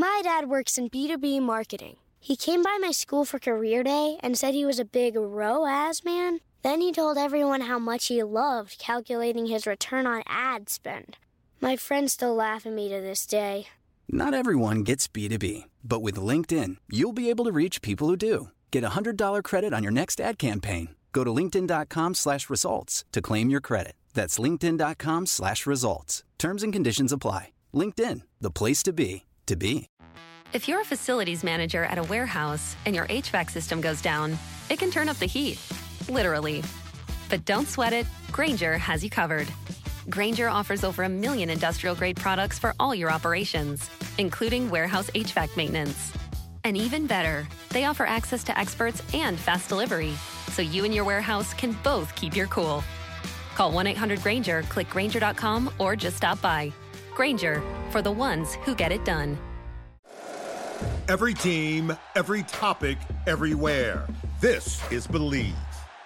My dad works in B2B marketing. He came by my school for career day and said he was a big ROAS man. Then he told everyone how much he loved calculating his return on ad spend. My friends still laugh at me to this day. Not everyone gets B2B, but with LinkedIn, you'll be able to reach people who do. Get a $100 credit on your next ad campaign. Go to linkedin.com/results to claim your credit. That's linkedin.com/results. Terms and conditions apply. LinkedIn, the place to be, to be. If you're a facilities manager at a warehouse and your HVAC system goes down, it can turn up the heat, literally. But don't sweat it, Grainger has you covered. Grainger offers over 1 million industrial-grade products for all your operations, including warehouse HVAC maintenance. And even better, they offer access to experts and fast delivery, so you and your warehouse can both keep your cool. Call 1-800-GRAINGER, click Grainger.com, or just stop by. Grainger, for the ones who get it done. Every team, every topic, everywhere. This is Believe.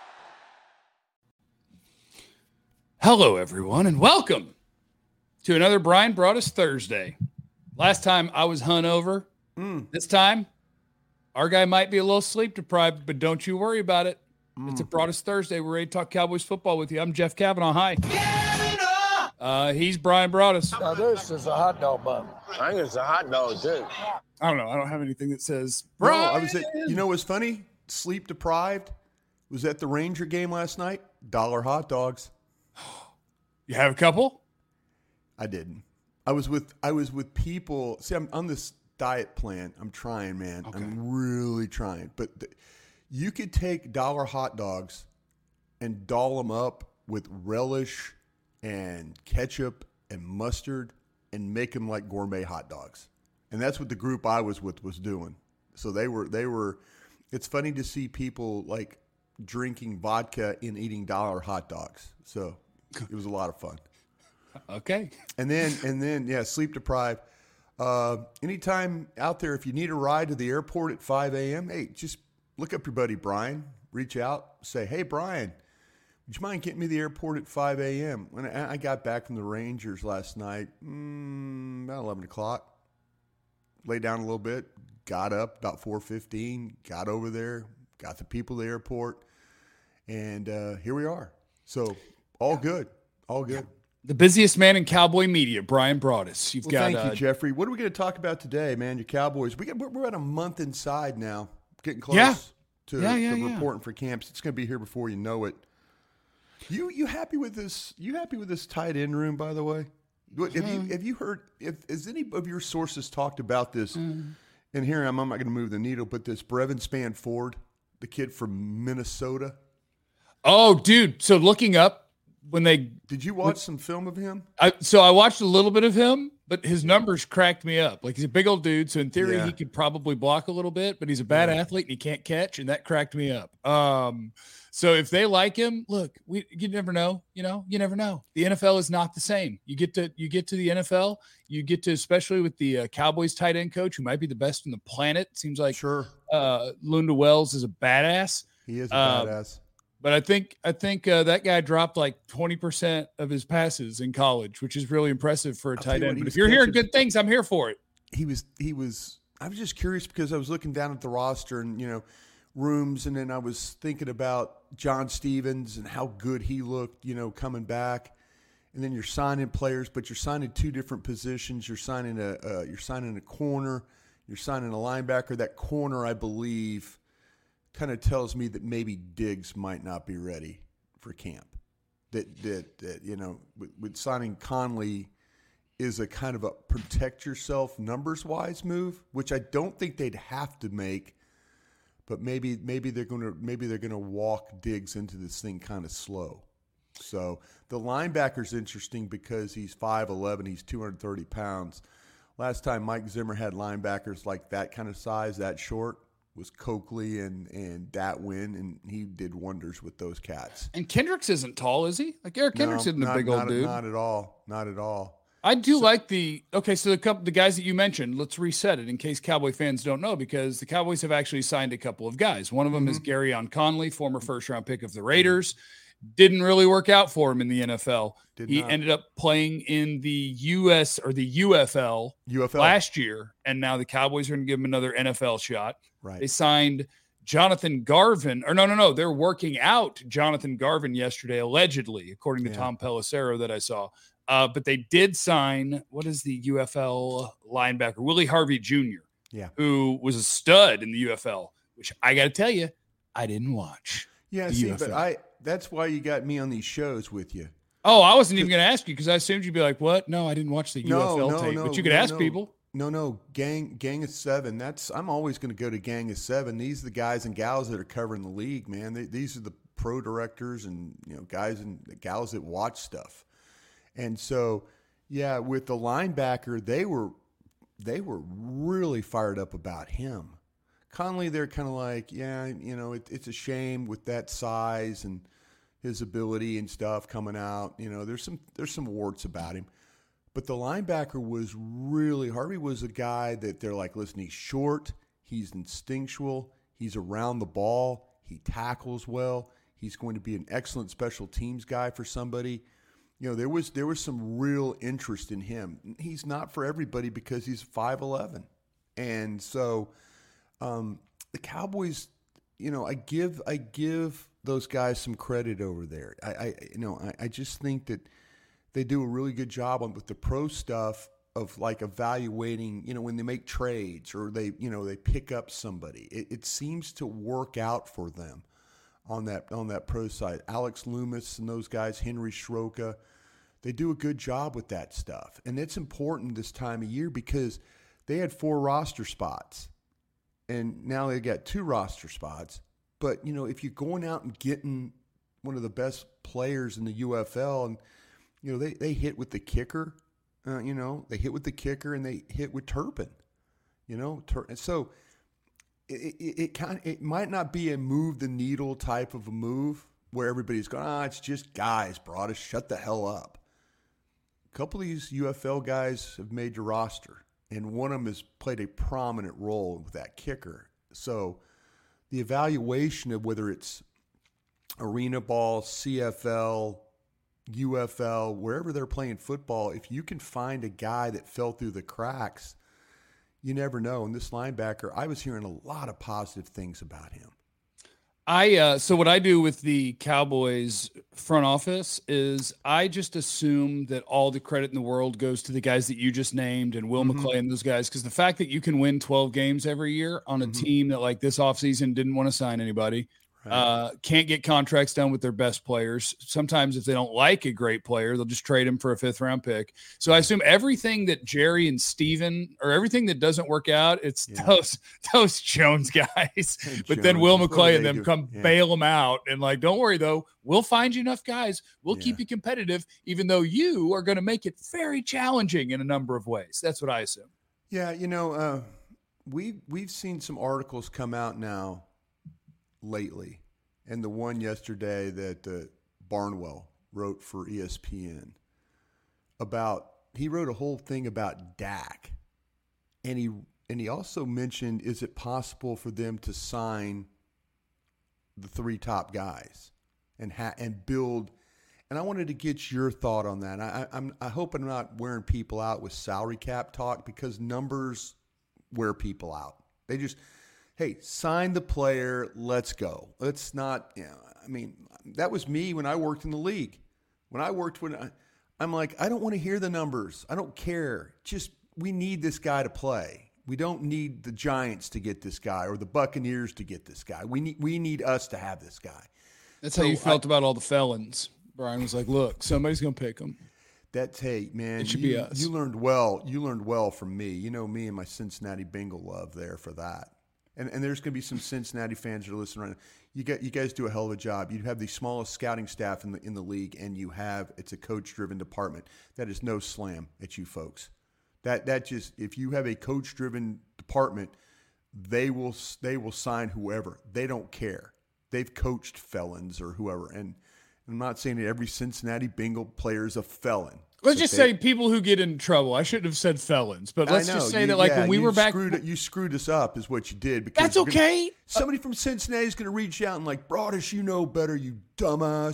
Hello, everyone, and welcome to another Brian Broaddus Thursday. Last time I was hungover. This time, our guy might be a little sleep deprived, but don't you worry about it. It's a Broaddus Thursday. We're ready to talk Cowboys football with you. I'm Jeff Kavanaugh. Hi. He's Brian Broaddus. Now this is a hot dog bun. I think it's a hot dog, too. I don't know. I don't have anything that says Brian. Brian. I was at, you know what's funny? Sleep deprived. Was at the Ranger game last night. $1 hot dogs. You have a couple? I didn't. I was with people. See, I'm on this diet plan. I'm trying, man. Okay. I'm really trying. But you could take $1 hot dogs and doll them up with relish and ketchup and mustard and make them like gourmet hot dogs. And that's what the group I was with was doing. So they were. It's funny to see people like drinking vodka and eating $1 hot dogs. So it was a lot of fun. Okay. And then, yeah, sleep deprived. Anytime out there, if you need a ride to the airport at 5 a.m., hey, just look up your buddy Brian. Reach out, say, hey, Brian, would you mind getting me to the airport at 5 a.m.? When I got back from the Rangers last night, about 11 o'clock. Lay down a little bit, got up about 4:15, got over there, got the people to the airport, and here we are. So all good. The busiest man in Cowboy media, Brian Broaddus. Thank you, Jeffrey. What are we going to talk about today, man? Your Cowboys. We're at a month inside now, getting close to reporting for camps. It's going to be here before you know it. You happy with this? You happy with this tight end room, by the way? Have you heard? Has any of your sources talked about this? And here I'm not going to move the needle, but this Brevin Spann-Ford, the kid from Minnesota. Oh, dude! So looking up did you watch some film of him? I watched a little bit of him, but his numbers cracked me up. Like he's a big old dude, so in theory he could probably block a little bit, but he's a bad athlete and he can't catch, and that cracked me up. So if they like him, look, you never know. You never know. The NFL is not the same. You get to the NFL, you get to, especially with the Cowboys tight end coach, who might be the best on the planet. Seems like Lunda Wells is a badass. He is a badass. But I think that guy dropped like 20% of his passes in college, which is really impressive for a tight end. But if you're hearing good things, I'm here for it. He was. I was just curious because I was looking down at the roster and rooms, and then I was thinking about John Stevens and how good he looked, coming back. And then you're signing players, but you're signing two different positions. You're signing a corner, you're signing a linebacker. That corner, I believe, kind of tells me that maybe Diggs might not be ready for camp. That with signing Conley is a kind of a protect yourself numbers wise move, which I don't think they'd have to make. But maybe they're gonna walk Diggs into this thing kind of slow. So the linebacker's interesting because he's 5'11", he's 230 pounds. Last time Mike Zimmer had linebackers like that kind of size, that short, was Coakley and Datwin, and he did wonders with those cats. And Kendricks isn't tall, is he? Like Eric Kendricks isn't a big old dude. Not at all. I do like the guys that you mentioned. Let's reset it in case Cowboy fans don't know, because the Cowboys have actually signed a couple of guys. One of them is Garyon Conley, former first-round pick of the Raiders. Didn't really work out for him in the NFL. He not. ended up playing in the US or the UFL last year, and now the Cowboys are going to give him another NFL shot. Right. They signed Jonathan Garvin, or no, they're working out Jonathan Garvin yesterday, allegedly, according to Tom Pelissero that I saw. But they did sign, what is the UFL linebacker? Willie Harvey Jr., who was a stud in the UFL, which I got to tell you, I didn't watch. Yeah, see, UFL. But that's why you got me on these shows with you. Oh, I wasn't even going to ask you because I assumed you'd be like, what? No, I didn't watch the UFL tape. But you could ask people. No, Gang of Seven. I'm always going to go to Gang of Seven. These are the guys and gals that are covering the league, man. These are the pro directors and guys and gals that watch stuff. And so, with the linebacker, they were really fired up about him. Conley, they're kind of like, it's a shame with that size and his ability and stuff coming out. There's some warts about him. But the linebacker was really, Harvey was a guy that they're like, listen, he's short, he's instinctual, he's around the ball, he tackles well, he's going to be an excellent special teams guy for somebody. There was some real interest in him. He's not for everybody because he's 5'11". And so the Cowboys, I give those guys some credit over there. I just think that they do a really good job with the pro stuff of like evaluating, when they make trades or they pick up somebody. It seems to work out for them on that pro side. Alex Loomis and those guys, Henry Schroka, they do a good job with that stuff. And it's important this time of year because they had 4 roster spots and now they got 2 roster spots. But, if you're going out and getting one of the best players in the UFL and, they hit with the kicker, they hit with the kicker and they hit with Turpin, and so it might not be a move the needle type of a move where everybody's going, it's just guys, Broadus, shut the hell up. A couple of these UFL guys have made your roster, and one of them has played a prominent role with that kicker. So the evaluation of whether it's arena ball, CFL, UFL, wherever they're playing football, if you can find a guy that fell through the cracks, you never know. And this linebacker, I was hearing a lot of positive things about him. So what I do with the Cowboys front office is I just assume that all the credit in the world goes to the guys that you just named and Will McClay and those guys. Because the fact that you can win 12 games every year on a team that like this offseason didn't want to sign anybody, can't get contracts done with their best players. Sometimes if they don't like a great player, they'll just trade him for a 5th round pick. So I assume everything that Jerry and Steven or everything that doesn't work out, it's those Jones guys. But then Will McClay and them come bail them out and like, don't worry though, we'll find you enough guys. We'll keep you competitive, even though you are going to make it very challenging in a number of ways. That's what I assume. Yeah. We've seen some articles come out now lately, and the one yesterday that Barnwell wrote for ESPN he wrote a whole thing about Dak, and he also mentioned, is it possible for them to sign the 3 top guys and build? And I wanted to get your thought on that. I hope I'm not wearing people out with salary cap talk, because numbers wear people out. They just, hey, sign the player, let's go. Let's not, that was me when I worked in the league. I'm like, I don't want to hear the numbers. I don't care. Just, we need this guy to play. We don't need the Giants to get this guy or the Buccaneers to get this guy. We need us to have this guy. That's how you felt about all the felons. Brian was like, look, somebody's going to pick them. Hey, man, it should be us. You learned well from me. You know me and my Cincinnati Bengal love there for that. And there's going to be some Cincinnati fans that are listening right now. You guys do a hell of a job. You have the smallest scouting staff in the league, and it's a coach-driven department. That is no slam at you folks. That just, if you have a coach-driven department, they will sign whoever. They don't care. They've coached felons or whoever. And I'm not saying that every Cincinnati Bengal player is a felon. Let's just say people who get in trouble. I shouldn't have said felons, but let's just say that when we were back. You screwed us up is what you did. Because that's okay. Somebody from Cincinnati is going to reach out and like, Broadus, you know better, you dumbass.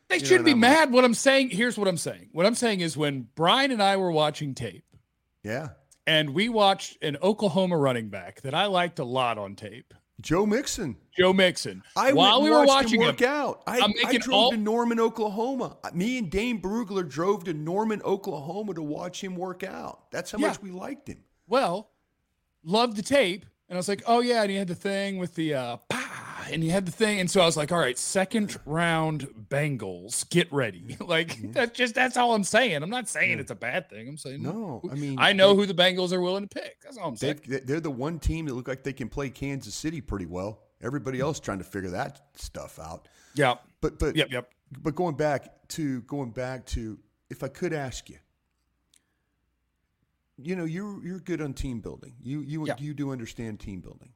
They shouldn't be mad. What I'm saying, here's what I'm saying. What I'm saying is when Brian and I were watching tape. Yeah. And we watched an Oklahoma running back that I liked a lot on tape. Joe Mixon. While we were watching him work out. I drove to Norman, Oklahoma. Me and Dane Brugler drove to Norman, Oklahoma to watch him work out. That's how much we liked him. Well, loved the tape. And I was like, oh, yeah. And he had the thing with the and he had the thing. And so I was like, all right, second round Bengals, get ready. That's all I'm saying. I'm not saying it's a bad thing. I'm saying, no, I mean, I know who the Bengals are willing to pick. That's all I'm saying. They're the one team that look like they can play Kansas City pretty well. Everybody else trying to figure that stuff out. Yeah. But yep. But going back to, if I could ask you, you're good on team building. You do understand team building.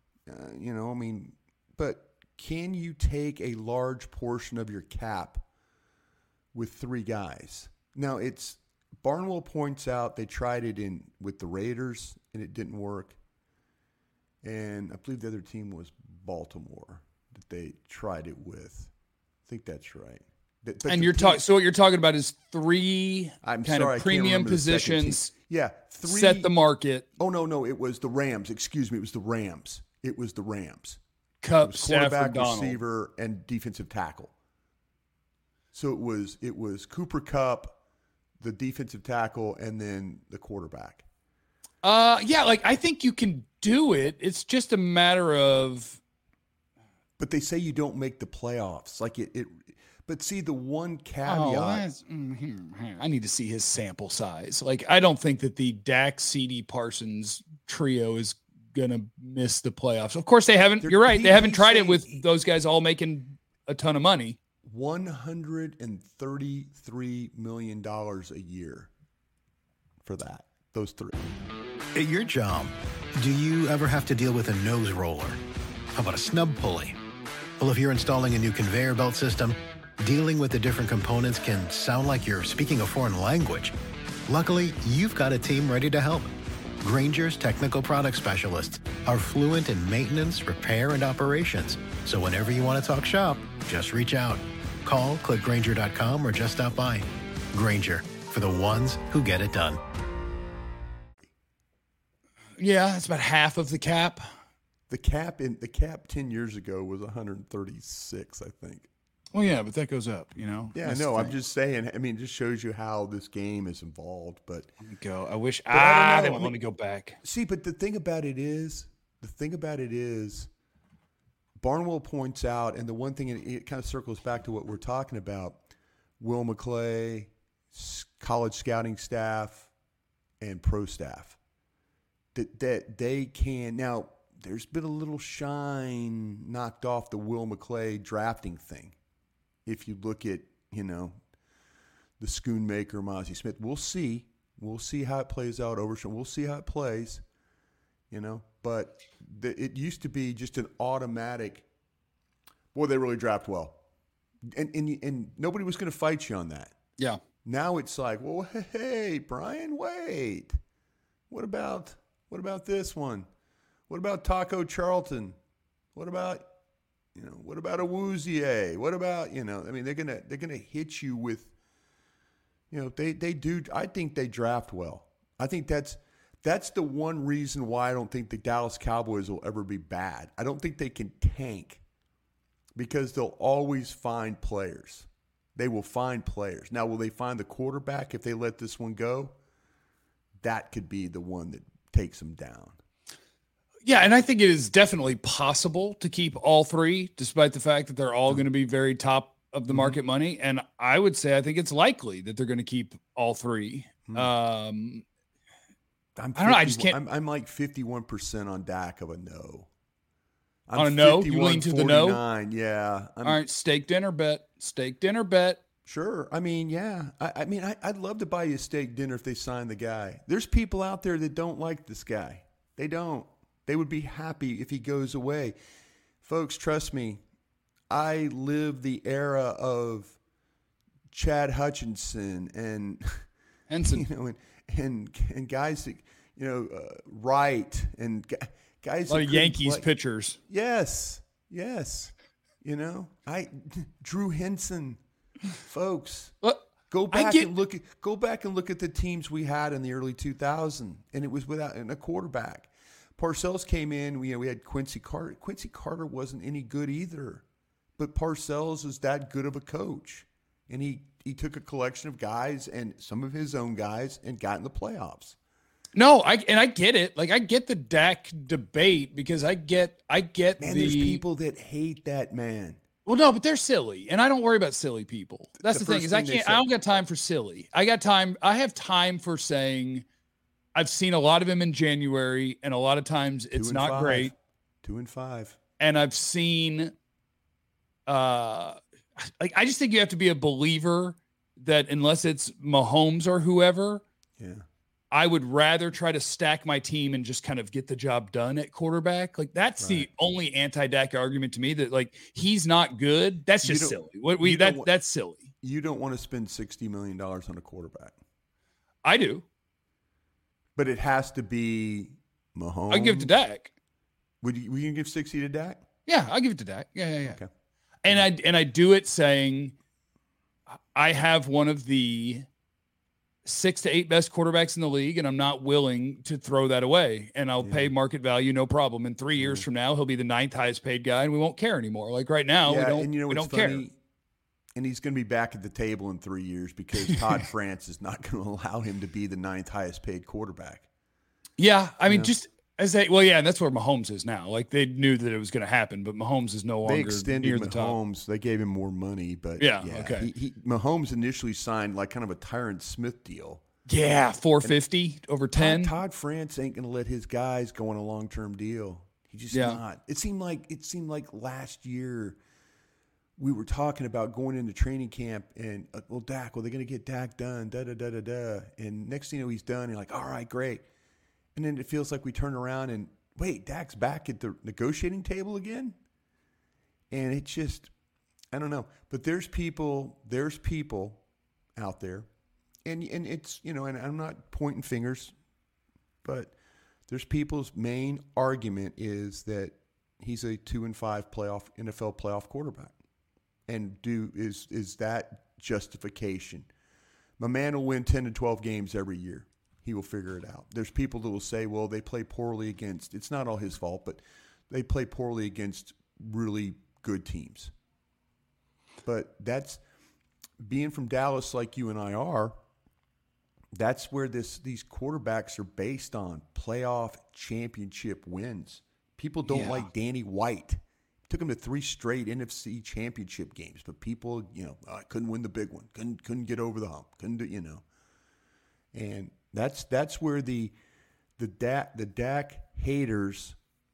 But can you take a large portion of your cap with three guys? Now, Barnwell points out they tried it with the Raiders and it didn't work. And I believe the other team was Baltimore that they tried it with. I think that's right. And so what you're talking about is three premium positions. Yeah, three. Set the market. Oh, no, it was the Rams. Excuse me, it was the Rams. Cup, quarterback, Stafford, receiver, and defensive tackle. So it was Cooper Kupp, the defensive tackle, and then the quarterback. I think you can do it. It's just a matter of. But they say you don't make the playoffs. But see, the one caveat. I need to see his sample size. I don't think that the Dak, CD, Parsons trio is gonna miss the playoffs. Of course they haven't. You're right. They haven't tried it with those guys all making a ton of money. $133 million a year for those three. At your job, do you ever have to deal with a nose roller? How about a snub pulley? Well, if you're installing a new conveyor belt system, dealing with the different components can sound like you're speaking a foreign language. Luckily, you've got a team ready to help. Grainger's technical product specialists are fluent in maintenance, repair, and operations. So whenever you want to talk shop, just reach out. Call, click Grainger.com, or just stop by. Grainger, for the ones who get it done. Yeah, it's about half of the cap. The cap 10 years ago was 136, I think. Well, yeah, but that goes up, Yeah, I know. I'm just saying. I mean, it just shows you how this game is involved. But let me go. I wish they won't let me go back. See, but the thing about it is, Barnwell points out, and the one thing it kind of circles back to what we're talking about: Will McClay, college scouting staff, and pro staff. That they can now. There's been a little shine knocked off the Will McClay drafting thing. If you look at, the Schoonmaker, Mozzie Smith, we'll see how it plays out. We'll see how it plays, But it used to be just an automatic. Boy, they really draft well, and nobody was going to fight you on that. Yeah. Now it's like, well, hey, Brian, wait. What about this one? What about Taco Charlton? What about Awuzie? What about, they're gonna hit you with, they do. I think they draft well. I think that's the one reason why I don't think the Dallas Cowboys will ever be bad. I don't think they can tank because they'll always find players. They will find players. Now, will they find the quarterback if they let this one go? That could be the one that takes them down. Yeah, and I think it is definitely possible to keep all three, despite the fact that they're all going to be very top of the market money. And I would say I think it's likely that they're going to keep all three. I don't know. I just can't. I'm like 51% on Dak of a no. On a no? You lean to the no? Yeah. All right, steak dinner bet. Sure. I mean, yeah. I'd love to buy you a steak dinner if they sign the guy. There's people out there that don't like this guy. They don't. They would be happy if he goes away. Folks, trust me, I lived the era of Chad Hutchinson and Henson, and guys that, Wright and guys. A lot of Yankees pitchers. Yes. Drew Henson. folks. Look, Go back and look at the teams we had in the early 2000s, and it was without a quarterback. Parcells came in. We had Quincy Carter. Quincy Carter wasn't any good either, but Parcells is that good of a coach, and he took a collection of guys and some of his own guys and got in the playoffs. No, I get it. Like, I get the Dak debate because I get There's people that hate that man. Well, no, but they're silly, and I don't worry about silly people. That's the thing is I don't got time for silly. I have time for saying I've seen a lot of him in January, and a lot of times it's not great. 2-5. And I've seen, I just think you have to be a believer that unless it's Mahomes or whoever, I would rather try to stack my team and just kind of get the job done at quarterback. Like, that's the only anti-Dak argument to me, that like he's not good. That's just silly. That's silly. You don't want to spend $60 million on a quarterback. I do. But it has to be Mahomes. I give it to Dak. Would you give 60 to Dak? Yeah, I'll give it to Dak. Yeah. Okay. And I do it saying I have one of the 6 to 8 best quarterbacks in the league, and I'm not willing to throw that away. And I'll pay market value, no problem. In 3 years from now, he'll be the 9th highest paid guy, and we won't care anymore. Like right now, we don't care. And he's going to be back at the table in 3 years because Todd France is not going to allow him to be the 9th highest paid quarterback. Yeah, I mean, just as and that's where Mahomes is now. Like, they knew that it was going to happen, but Mahomes is no longer They extended near the Mahomes. top. They gave him more money, but okay. Mahomes initially signed like kind of a Tyron Smith deal. Yeah, $450 over 10. Todd France ain't going to let his guys go on a long-term deal. He's just not. It seemed like last year we were talking about going into training camp and Dak. Well, they're going to get Dak done. Da da da da da. And next thing you know, he's done. And you're like, all right, great. And then it feels like we turn around and wait, Dak's back at the negotiating table again. And it's just, I don't know. But there's people out there. And it's, and I'm not pointing fingers, but there's people's main argument is that he's a 2-5 NFL playoff quarterback. And is that justification? My man will win 10 to 12 games every year. He will figure it out. There's people that will say, well, they play poorly against, it's not all his fault, but they play poorly against really good teams. But that's, being from Dallas like you and I are, that's where these quarterbacks are based on playoff championship wins. People don't like Danny White. Took him to 3 straight NFC championship games, but people, couldn't win the big one. Couldn't get over the hump. Couldn't do, And that's where the Dak haters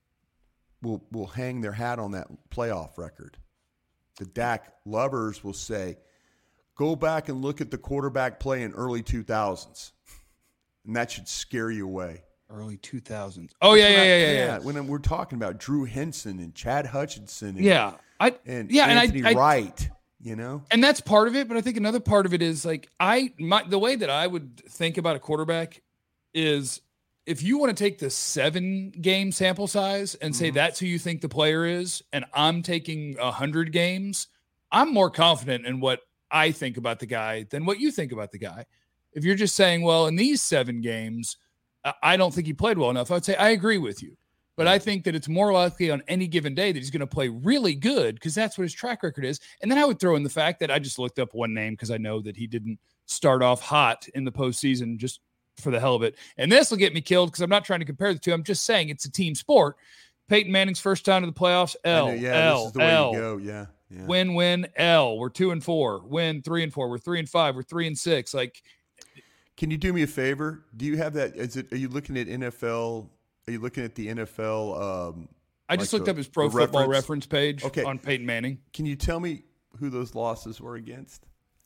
will hang their hat on that playoff record. The Dak lovers will say, go back and look at the quarterback play in early 2000s. And that should scare you away. Early 2000s. Oh, yeah. When we're talking about Drew Henson and Chad Hutchinson and Anthony Wright, And that's part of it, but I think another part of it is like the way that I would think about a quarterback is if you want to take the 7-game sample size and say that's who you think the player is, and I'm taking 100 games, I'm more confident in what I think about the guy than what you think about the guy. If you're just saying, well, in these 7 games, I don't think he played well enough, I would say I agree with you. But I think that it's more likely on any given day that he's going to play really good because that's what his track record is. And then I would throw in the fact that I just looked up one name because I know that he didn't start off hot in the postseason just for the hell of it. And this will get me killed because I'm not trying to compare the two. I'm just saying it's a team sport. Peyton Manning's first time to the playoffs, L. This is the way you go. Yeah. Win, win, L. We're 2-4. Win, 3-4. We're 3-5. We're 3-6. Like, can you do me a favor? Do you have that? Are you looking at NFL? Are you looking at the NFL? I just looked up his Pro Football Reference page on Peyton Manning. Can you tell me who those losses were against?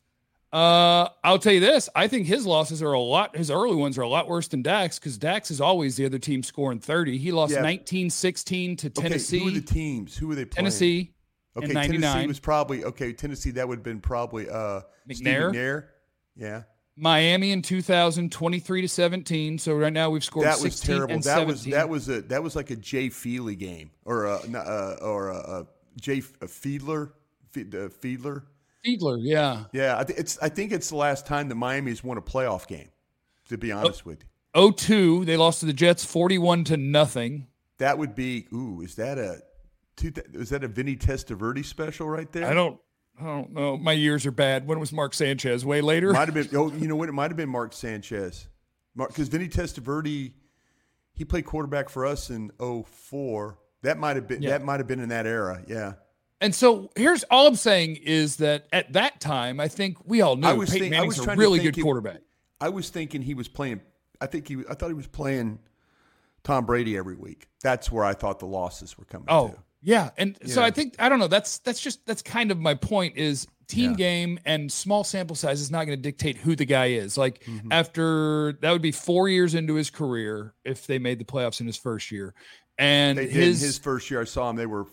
I'll tell you this. I think his losses are his early ones are a lot worse than Dak's because Dak's is always the other team scoring 30. He lost 19-16 to Tennessee. Who were the teams? Who were they playing? Tennessee. Okay, in 99. Tennessee was probably Tennessee. That would have been probably McNair. Yeah. Miami in 2000, 23-17. So right now we've scored 16 was terrible. and that 17. Was like a Jay Feely game or a Jay Fiedler. Fiedler, yeah. Yeah, I think it's the last time that Miami's won a playoff game, to be honest with you. 0-2, they lost to the Jets 41-0. That would be, is that a Vinny Testaverde special right there? I don't know. My years are bad. When was Mark Sanchez? Way later? Might have been. Oh, you know what? It might have been Mark Sanchez. Because Vinny Testaverde, he played quarterback for us in 2004. That might have been. Yeah. That might have been in that era. Yeah. And so here's all I'm saying is that at that time, I think we all knew Peyton Manning's a really good quarterback. I was thinking he was playing. I thought he was playing Tom Brady every week. That's where I thought the losses were coming. Oh, yeah. And so I think, I don't know, that's kind of my point is team game and small sample size is not going to dictate who the guy is. Like after that would be 4 years into his career if they made the playoffs in his first year. And his first year I saw him, they were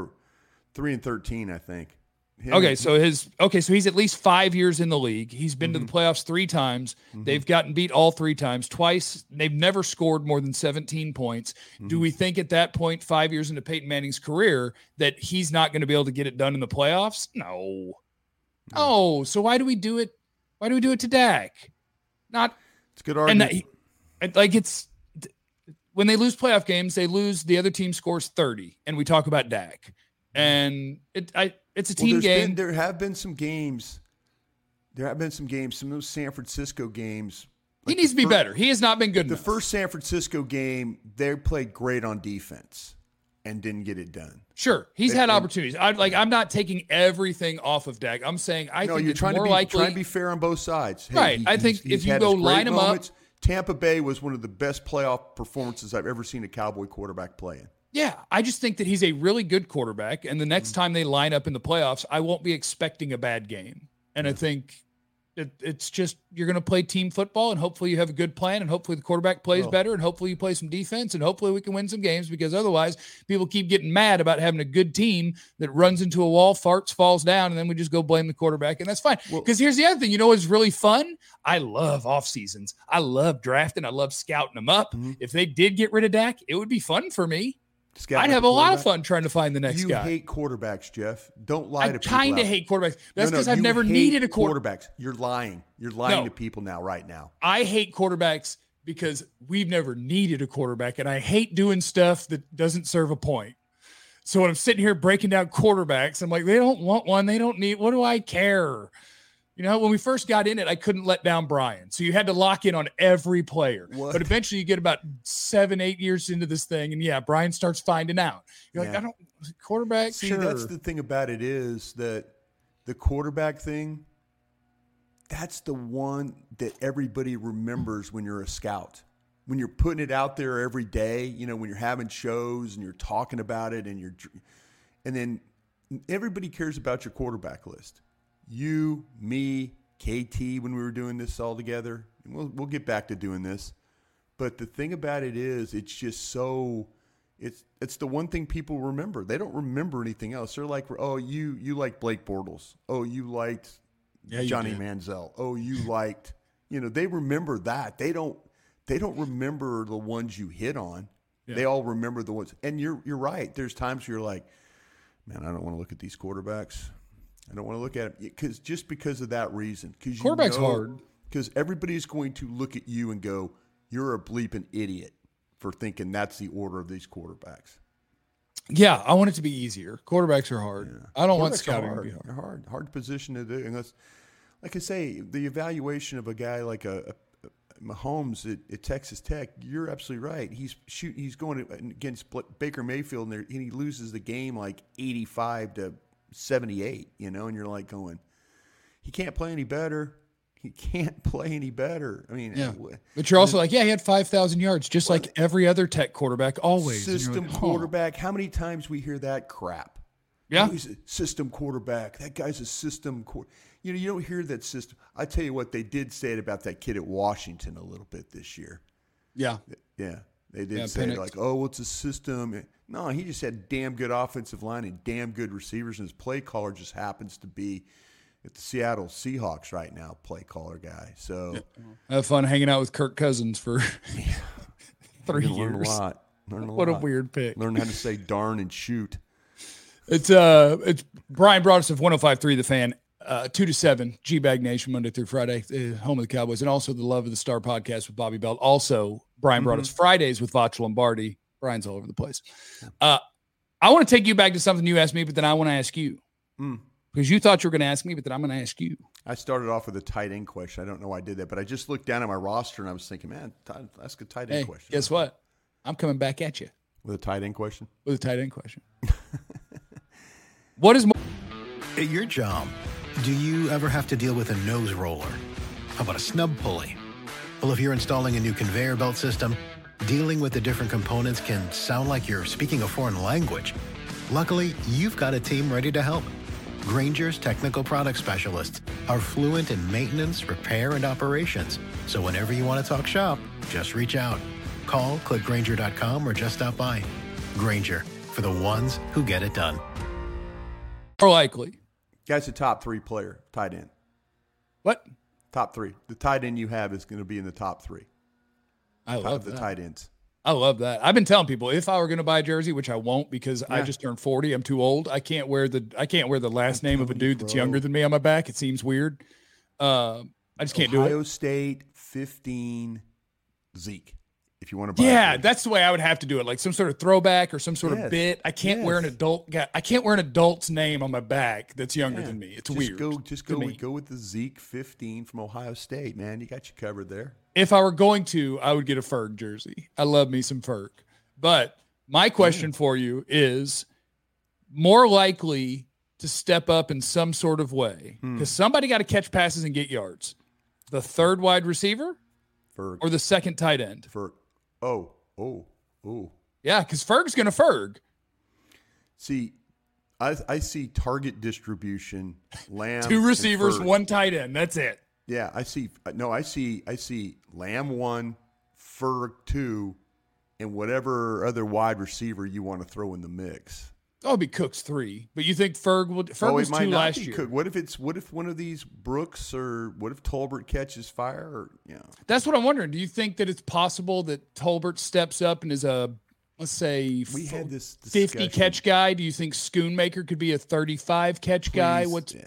3-13, I think. So he's at least 5 years in the league. He's been to the playoffs 3 times. They've gotten beat all 3 times. Twice, they've never scored more than 17 points. Do we think at that point, 5 years into Peyton Manning's career, that he's not going to be able to get it done in the playoffs? No. Oh, so why do we do it? Why do we do it to Dak? It's a good argument. It's when they lose playoff games, they lose. The other team scores 30, and we talk about Dak. And it's a team game. There have been some games. Some of those San Francisco games. He needs to be better. He has not been good enough. The first San Francisco game, they played great on defense and didn't get it done. Sure, he's had opportunities. I'm not taking everything off of Dak. I'm saying I think it's more likely. Trying to be fair on both sides. Hey, right. I think if you go line him up. Tampa Bay was one of the best playoff performances I've ever seen a Cowboy quarterback play in. Yeah, I just think that he's a really good quarterback, and the next time they line up in the playoffs, I won't be expecting a bad game. And I think it's just you're going to play team football, and hopefully you have a good plan, and hopefully the quarterback plays better, and hopefully you play some defense, and hopefully we can win some games, because otherwise people keep getting mad about having a good team that runs into a wall, farts, falls down, and then we just go blame the quarterback, and that's fine. Because here's the other thing. You know what's really fun? I love off seasons. I love drafting. I love scouting them up. If they did get rid of Dak, it would be fun for me. I'd have a lot of fun trying to find the next guy. You hate quarterbacks, Jeff. Don't lie to people. I kind of hate quarterbacks. That's because I've never needed a quarterback. You're lying. You're lying to people right now. I hate quarterbacks because we've never needed a quarterback, and I hate doing stuff that doesn't serve a point. So when I'm sitting here breaking down quarterbacks, I'm like, they don't want one. They don't need. What do I care? You know, when we first got in it, I couldn't let down Brian. So you had to lock in on every player. What? But eventually you get about 7-8 years into this thing, and Brian starts finding out. You're like, quarterback, See, sure. That's the thing about it is that the quarterback thing, that's the one that everybody remembers when you're a scout. When you're putting it out there every day, when you're having shows and you're talking about it and then everybody cares about your quarterback list. You, me, KT, when we were doing this all together, we'll get back to doing this. But the thing about it is, it's just so, it's the one thing people remember. They don't remember anything else. They're like, oh, you like Blake Bortles. Oh, you liked Johnny Manziel. Oh, you liked, they remember that. They don't remember the ones you hit on. Yeah. They all remember the ones. And you're right. There's times where you're like, man, I don't want to look at these quarterbacks. I don't want to look at it because of that reason. Quarterback's hard. Because everybody's going to look at you and go, you're a bleeping idiot for thinking that's the order of these quarterbacks. Yeah, I want it to be easier. Quarterbacks are hard. Yeah. I don't want scouting to be hard. They're hard position to do. And that's, like I say, the evaluation of a guy like a Mahomes at Texas Tech, you're absolutely right. He's going against Baker Mayfield, and he loses the game like 85-78, and you're like going, he can't play any better. He can't play any better. I mean, but you're also like, he had 5,000 yards, just like every other Tech quarterback always. System quarterback. How many times we hear that crap? Yeah. He's a system quarterback. That guy's a system quarterback. You don't hear that system. I tell you what, they did say it about that kid at Washington a little bit this year. Yeah. Yeah. They did say it like, oh, it's a system. No, he just had damn good offensive line and damn good receivers, and his play caller just happens to be at the Seattle Seahawks right now, play caller guy. So have fun hanging out with Kirk Cousins for 3 years. Learn a lot. What a weird pick. Learn how to say darn and shoot. It's Brian Broaddus of 105.3 The Fan. 2-7, G-Bag Nation, Monday through Friday, home of the Cowboys, and also the Love of the Star podcast with Bobby Belt. Also, Brian brought us Fridays with Vacha Lombardi. Brian's all over the place. I want to take you back to something you asked me, but then I want to ask you. Because you thought you were going to ask me, but then I'm going to ask you. I started off with a tight end question. I don't know why I did that, but I just looked down at my roster and I was thinking, man, ask a tight end question. Guess what? I'm coming back at you. With a tight end question? With a tight end question. What is more? At your job, do you ever have to deal with a nose roller? How about a snub pulley? Well, if you're installing a new conveyor belt system, dealing with the different components can sound like you're speaking a foreign language. Luckily, you've got a team ready to help. Grainger's technical product specialists are fluent in maintenance, repair, and operations. So whenever you want to talk shop, just reach out. Call, click Grainger.com, or just stop by. Grainger, for the ones who get it done. More likely. Guy's a top 3 player, tight end. What? Top 3. The tight end you have is going to be in the top 3. I love the tight ends. I love that. I've been telling people if I were going to buy a jersey, which I won't because I just turned 40, I'm too old. I can't wear the last name of a dude that's younger than me on my back. It seems weird. I just can't do it. Ohio State 15 Zeke. If you want to buy Yeah, that's the way I would have to do it. Like some sort of throwback or some sort of bit. I can't wear an adult guy. I can't wear an adult's name on my back that's younger than me. It's weird. Go with the Zeke 15 from Ohio State, man. You got you covered there. If I were going to, I would get a Ferg jersey. I love me some Ferg. But my question for you is more likely to step up in some sort of way because somebody got to catch passes and get yards. The third wide receiver Ferg. Or the second tight end? Ferg. Oh. Yeah, because Ferg's going to Ferg. See, I see target distribution, Lamb. 2 receivers, 1 tight end. That's it. Yeah, I see Lamb 1, Ferg 2, and whatever other wide receiver you want to throw in the mix. Oh, it'd be Cooks 3. But you think Ferg was 2 last year? What if one of these Brooks or what if Tolbert catches fire? Or, That's what I'm wondering. Do you think that it's possible that Tolbert steps up and is a, let's say, we had this 50 catch guy? Do you think Schoonmaker could be a 35 catch guy?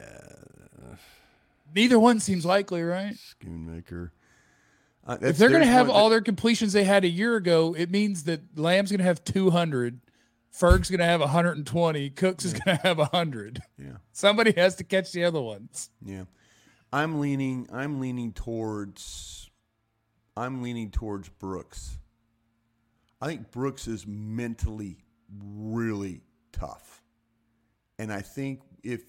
Neither one seems likely, right? Schoonmaker. If they're going to have all their completions they had a year ago, it means that Lamb's going to have 200. Ferg's going to have 120. Cooks is going to have 100. Yeah. Somebody has to catch the other ones. Yeah. I'm leaning towards Brooks. I think Brooks is mentally really tough. And I think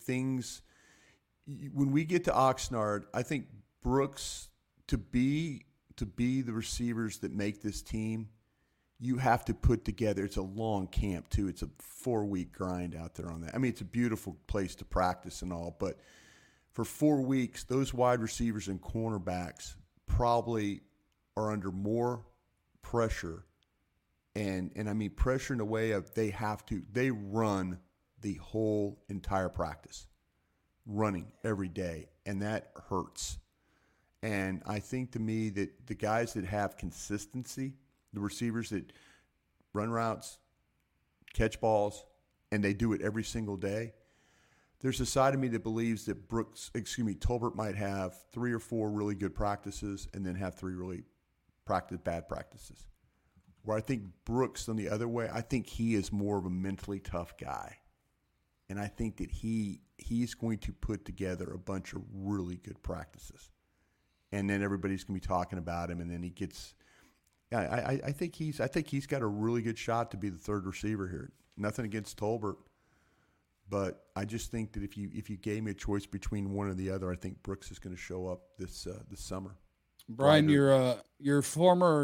when we get to Oxnard, I think Brooks to be the receivers that make this team, you have to put together. It's a long camp too. It's a 4-week grind out there on that. I mean, it's a beautiful place to practice and all, but for 4 weeks, those wide receivers and cornerbacks probably are under more pressure, and I mean pressure in a way of they run the whole entire practice, running every day, and that hurts. And I think to me that the guys that have consistency, the receivers that run routes, catch balls, and they do it every single day. There's a side of me that believes that Tolbert might have 3 or 4 really good practices and then have 3 really bad practices. Where I think Brooks, on the other way, I think he is more of a mentally tough guy. And I think that he's going to put together a bunch of really good practices. And then everybody's going to be talking about him, and then he gets – yeah, I think he's got a really good shot to be the third receiver here. Nothing against Tolbert, but I just think that if you gave me a choice between one or the other, I think Brooks is going to show up this summer. Brian, you're a former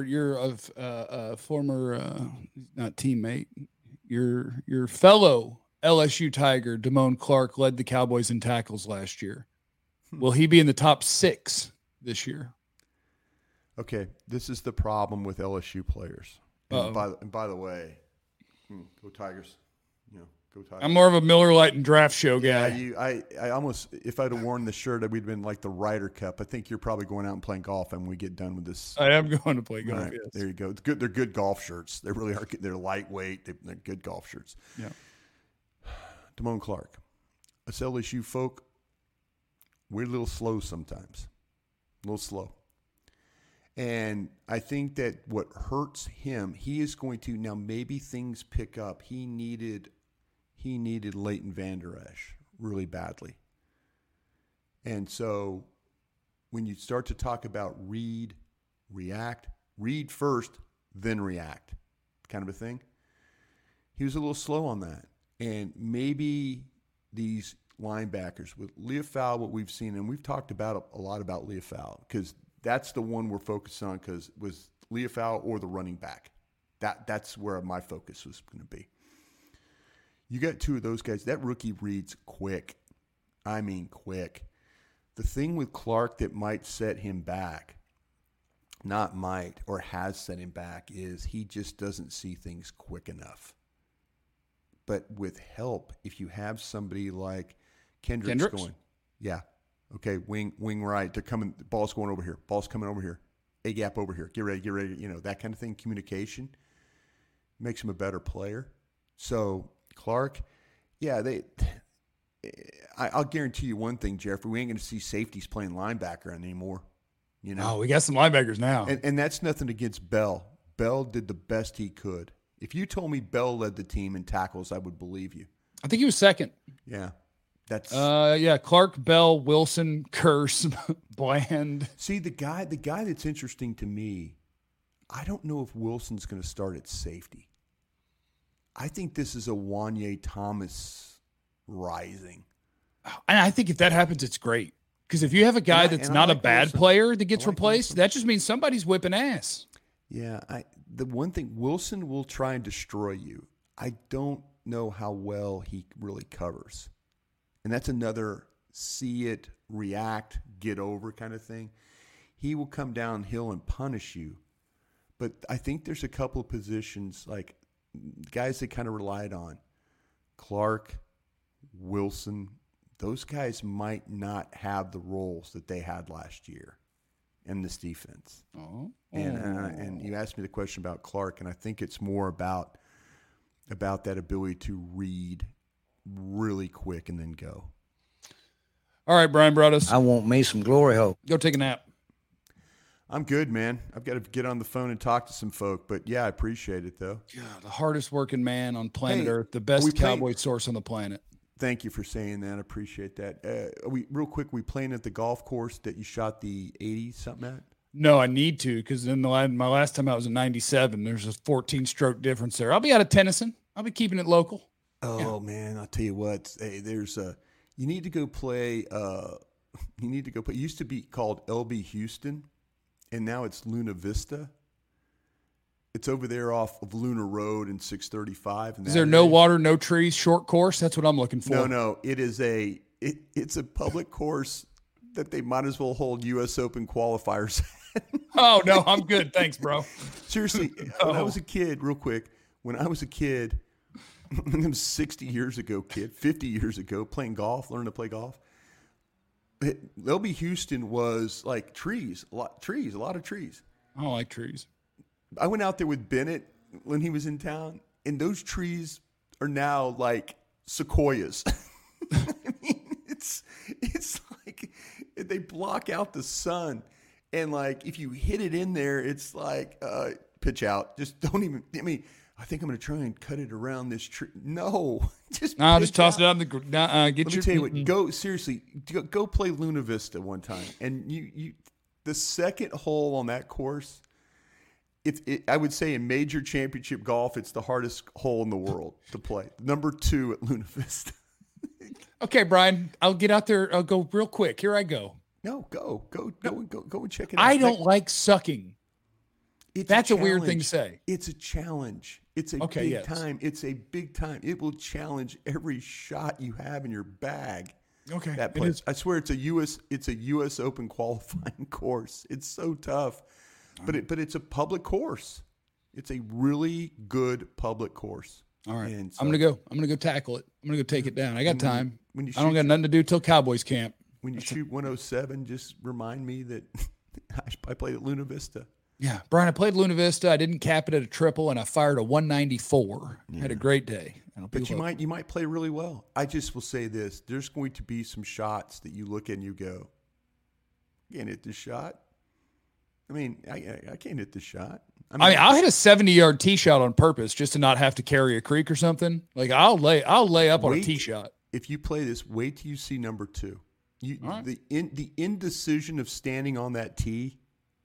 not teammate, your fellow LSU Tiger Damone Clark led the Cowboys in tackles last year. Will he be in the top 6 this year? Okay, this is the problem with LSU players. And by the way, go Tigers! Go Tigers! I'm more of a Miller Lite and draft show guy. Yeah, I almost, if I'd have worn the shirt, we'd been like the Ryder Cup. I think you're probably going out and playing golf, and when we get done with this. I am going to play golf. Right, yes. There you go. It's good. They're good golf shirts. They really are. They're lightweight. They're good golf shirts. Yeah. Damone Clark, us LSU folk, We're a little slow sometimes. A little slow. And I think that what hurts him, he is going to, now maybe things pick up. He needed Leighton Vander Esch really badly. And so when you start to talk about read first, then react kind of a thing, he was a little slow on that. And maybe these linebackers with Leofau, what we've seen, and we've talked about a lot about Leofau because that's the one we're focused on, because was Leofau or the running back. That's where my focus was going to be. You got two of those guys. That rookie reads quick. I mean quick. The thing with Clark that might set him back, not might, or has set him back, is he just doesn't see things quick enough. But with help, if you have somebody like Kendricks? Going, yeah, okay, wing right, they're coming, the ball's going over here, ball's coming over here, A gap over here, get ready, that kind of thing. Communication makes him a better player. So Clark, yeah, I'll guarantee you one thing, Jeffrey, we ain't going to see safeties playing linebacker anymore. Oh, we got some linebackers now. And that's nothing against Bell. Bell did the best he could. If you told me Bell led the team in tackles, I would believe you. I think he was second. Yeah. That's Clark, Bell, Wilson, Curse, Bland. See, the guy that's interesting to me, I don't know if Wilson's going to start at safety. I think this is a Wanye Thomas rising. And I think if that happens, it's great. Because if you have a guy that's not a bad player that gets replaced, that just means somebody's whipping ass. Yeah, the one thing, Wilson will try and destroy you. I don't know how well he really covers. And that's another see it, react, get over kind of thing. He will come downhill and punish you. But I think there's a couple of positions, like guys that kind of relied on. Clark, Wilson, those guys might not have the roles that they had last year in this defense. Oh. And you asked me the question about Clark, and I think it's more about that ability to read really quick and then go. All right, Brian Broaddus. I want me some glory hole. Go take a nap. I'm good, man. I've got to get on the phone and talk to some folk, but yeah, I appreciate it though. God, the hardest working man on planet Earth, the best cowboy source on the planet. Thank you for saying that. I appreciate that. We playing at the golf course that you shot the 80-something at? No, I need to, because in my last time I was in 97. There's a 14-stroke difference there. I'll be out of Tennyson. I'll be keeping it local. Oh, man, I'll tell you what. Hey, you need to go play. It used to be called LB Houston, and now it's Luna Vista. It's over there off of Lunar Road in 635. Is there no water, no trees, short course? That's what I'm looking for. No. It is it's a public course that they might as well hold U.S. Open qualifiers. Oh, no, I'm good. Thanks, bro. Seriously, when I was a kid, real quick, it was 60 years ago, 50 years ago, playing golf, learning to play golf. LB Houston was like trees, a lot of trees. I don't like trees. I went out there with Bennett when he was in town, and those trees are now like sequoias. I mean, it's like they block out the sun, and like if you hit it in there, it's like pitch out. Just don't even. I mean, I think I'm going to try and cut it around this tree. No, just toss it out. Let me tell you what. Go play Luna Vista one time, and you the second hole on that course. I would say in major championship golf, it's the hardest hole in the world to play. Number 2 at Luna Vista. Okay, Brian, I'll get out there. I'll go real quick. Here I go. No, go and check it out. I don't like sucking. That's a weird thing to say. It's a challenge. It's a big time. It's a big time. It will challenge every shot you have in your bag. Okay. That place. I swear it's a US Open qualifying course. It's so tough. But it's a public course. It's a really good public course. All right. So, I'm gonna go tackle it. I'm gonna go take it down. I got time. I don't got nothing to do till Cowboys camp. When you shoot 107, just remind me that I played at Luna Vista. Yeah, Brian, I played Luna Vista. I didn't cap it at a triple, and I fired a 194. Yeah. Had a great day. But you might play really well. I just will say this. There's going to be some shots that you look at and you go, I can't hit this shot. I mean, I can't hit this shot. I mean, I'll hit a 70-yard tee shot on purpose just to not have to carry a creek or something. Like I'll lay up on a tee shot. If you play this, wait till you see number 2. The indecision of standing on that tee,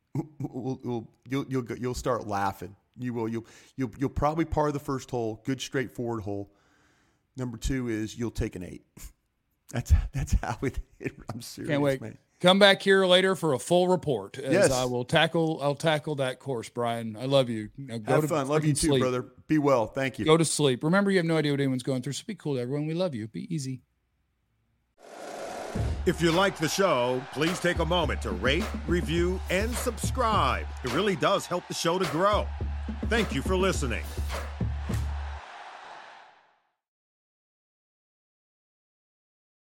you'll start laughing. You will. You'll probably par the first hole, good straightforward hole. Number 2 is you'll take an 8. That's how it. I'm serious. Can't wait. Man. Come back here later for a full report. As yes. I'll tackle that course, Brian. I love you. Have fun. Love you too, sleep. brother. Be well. Thank you. Go to sleep. Remember, you have no idea what anyone's going through, so be cool to everyone. We love you. Be easy. If you like the show, please take a moment to rate, review, and subscribe. It really does help the show to grow. Thank you for listening.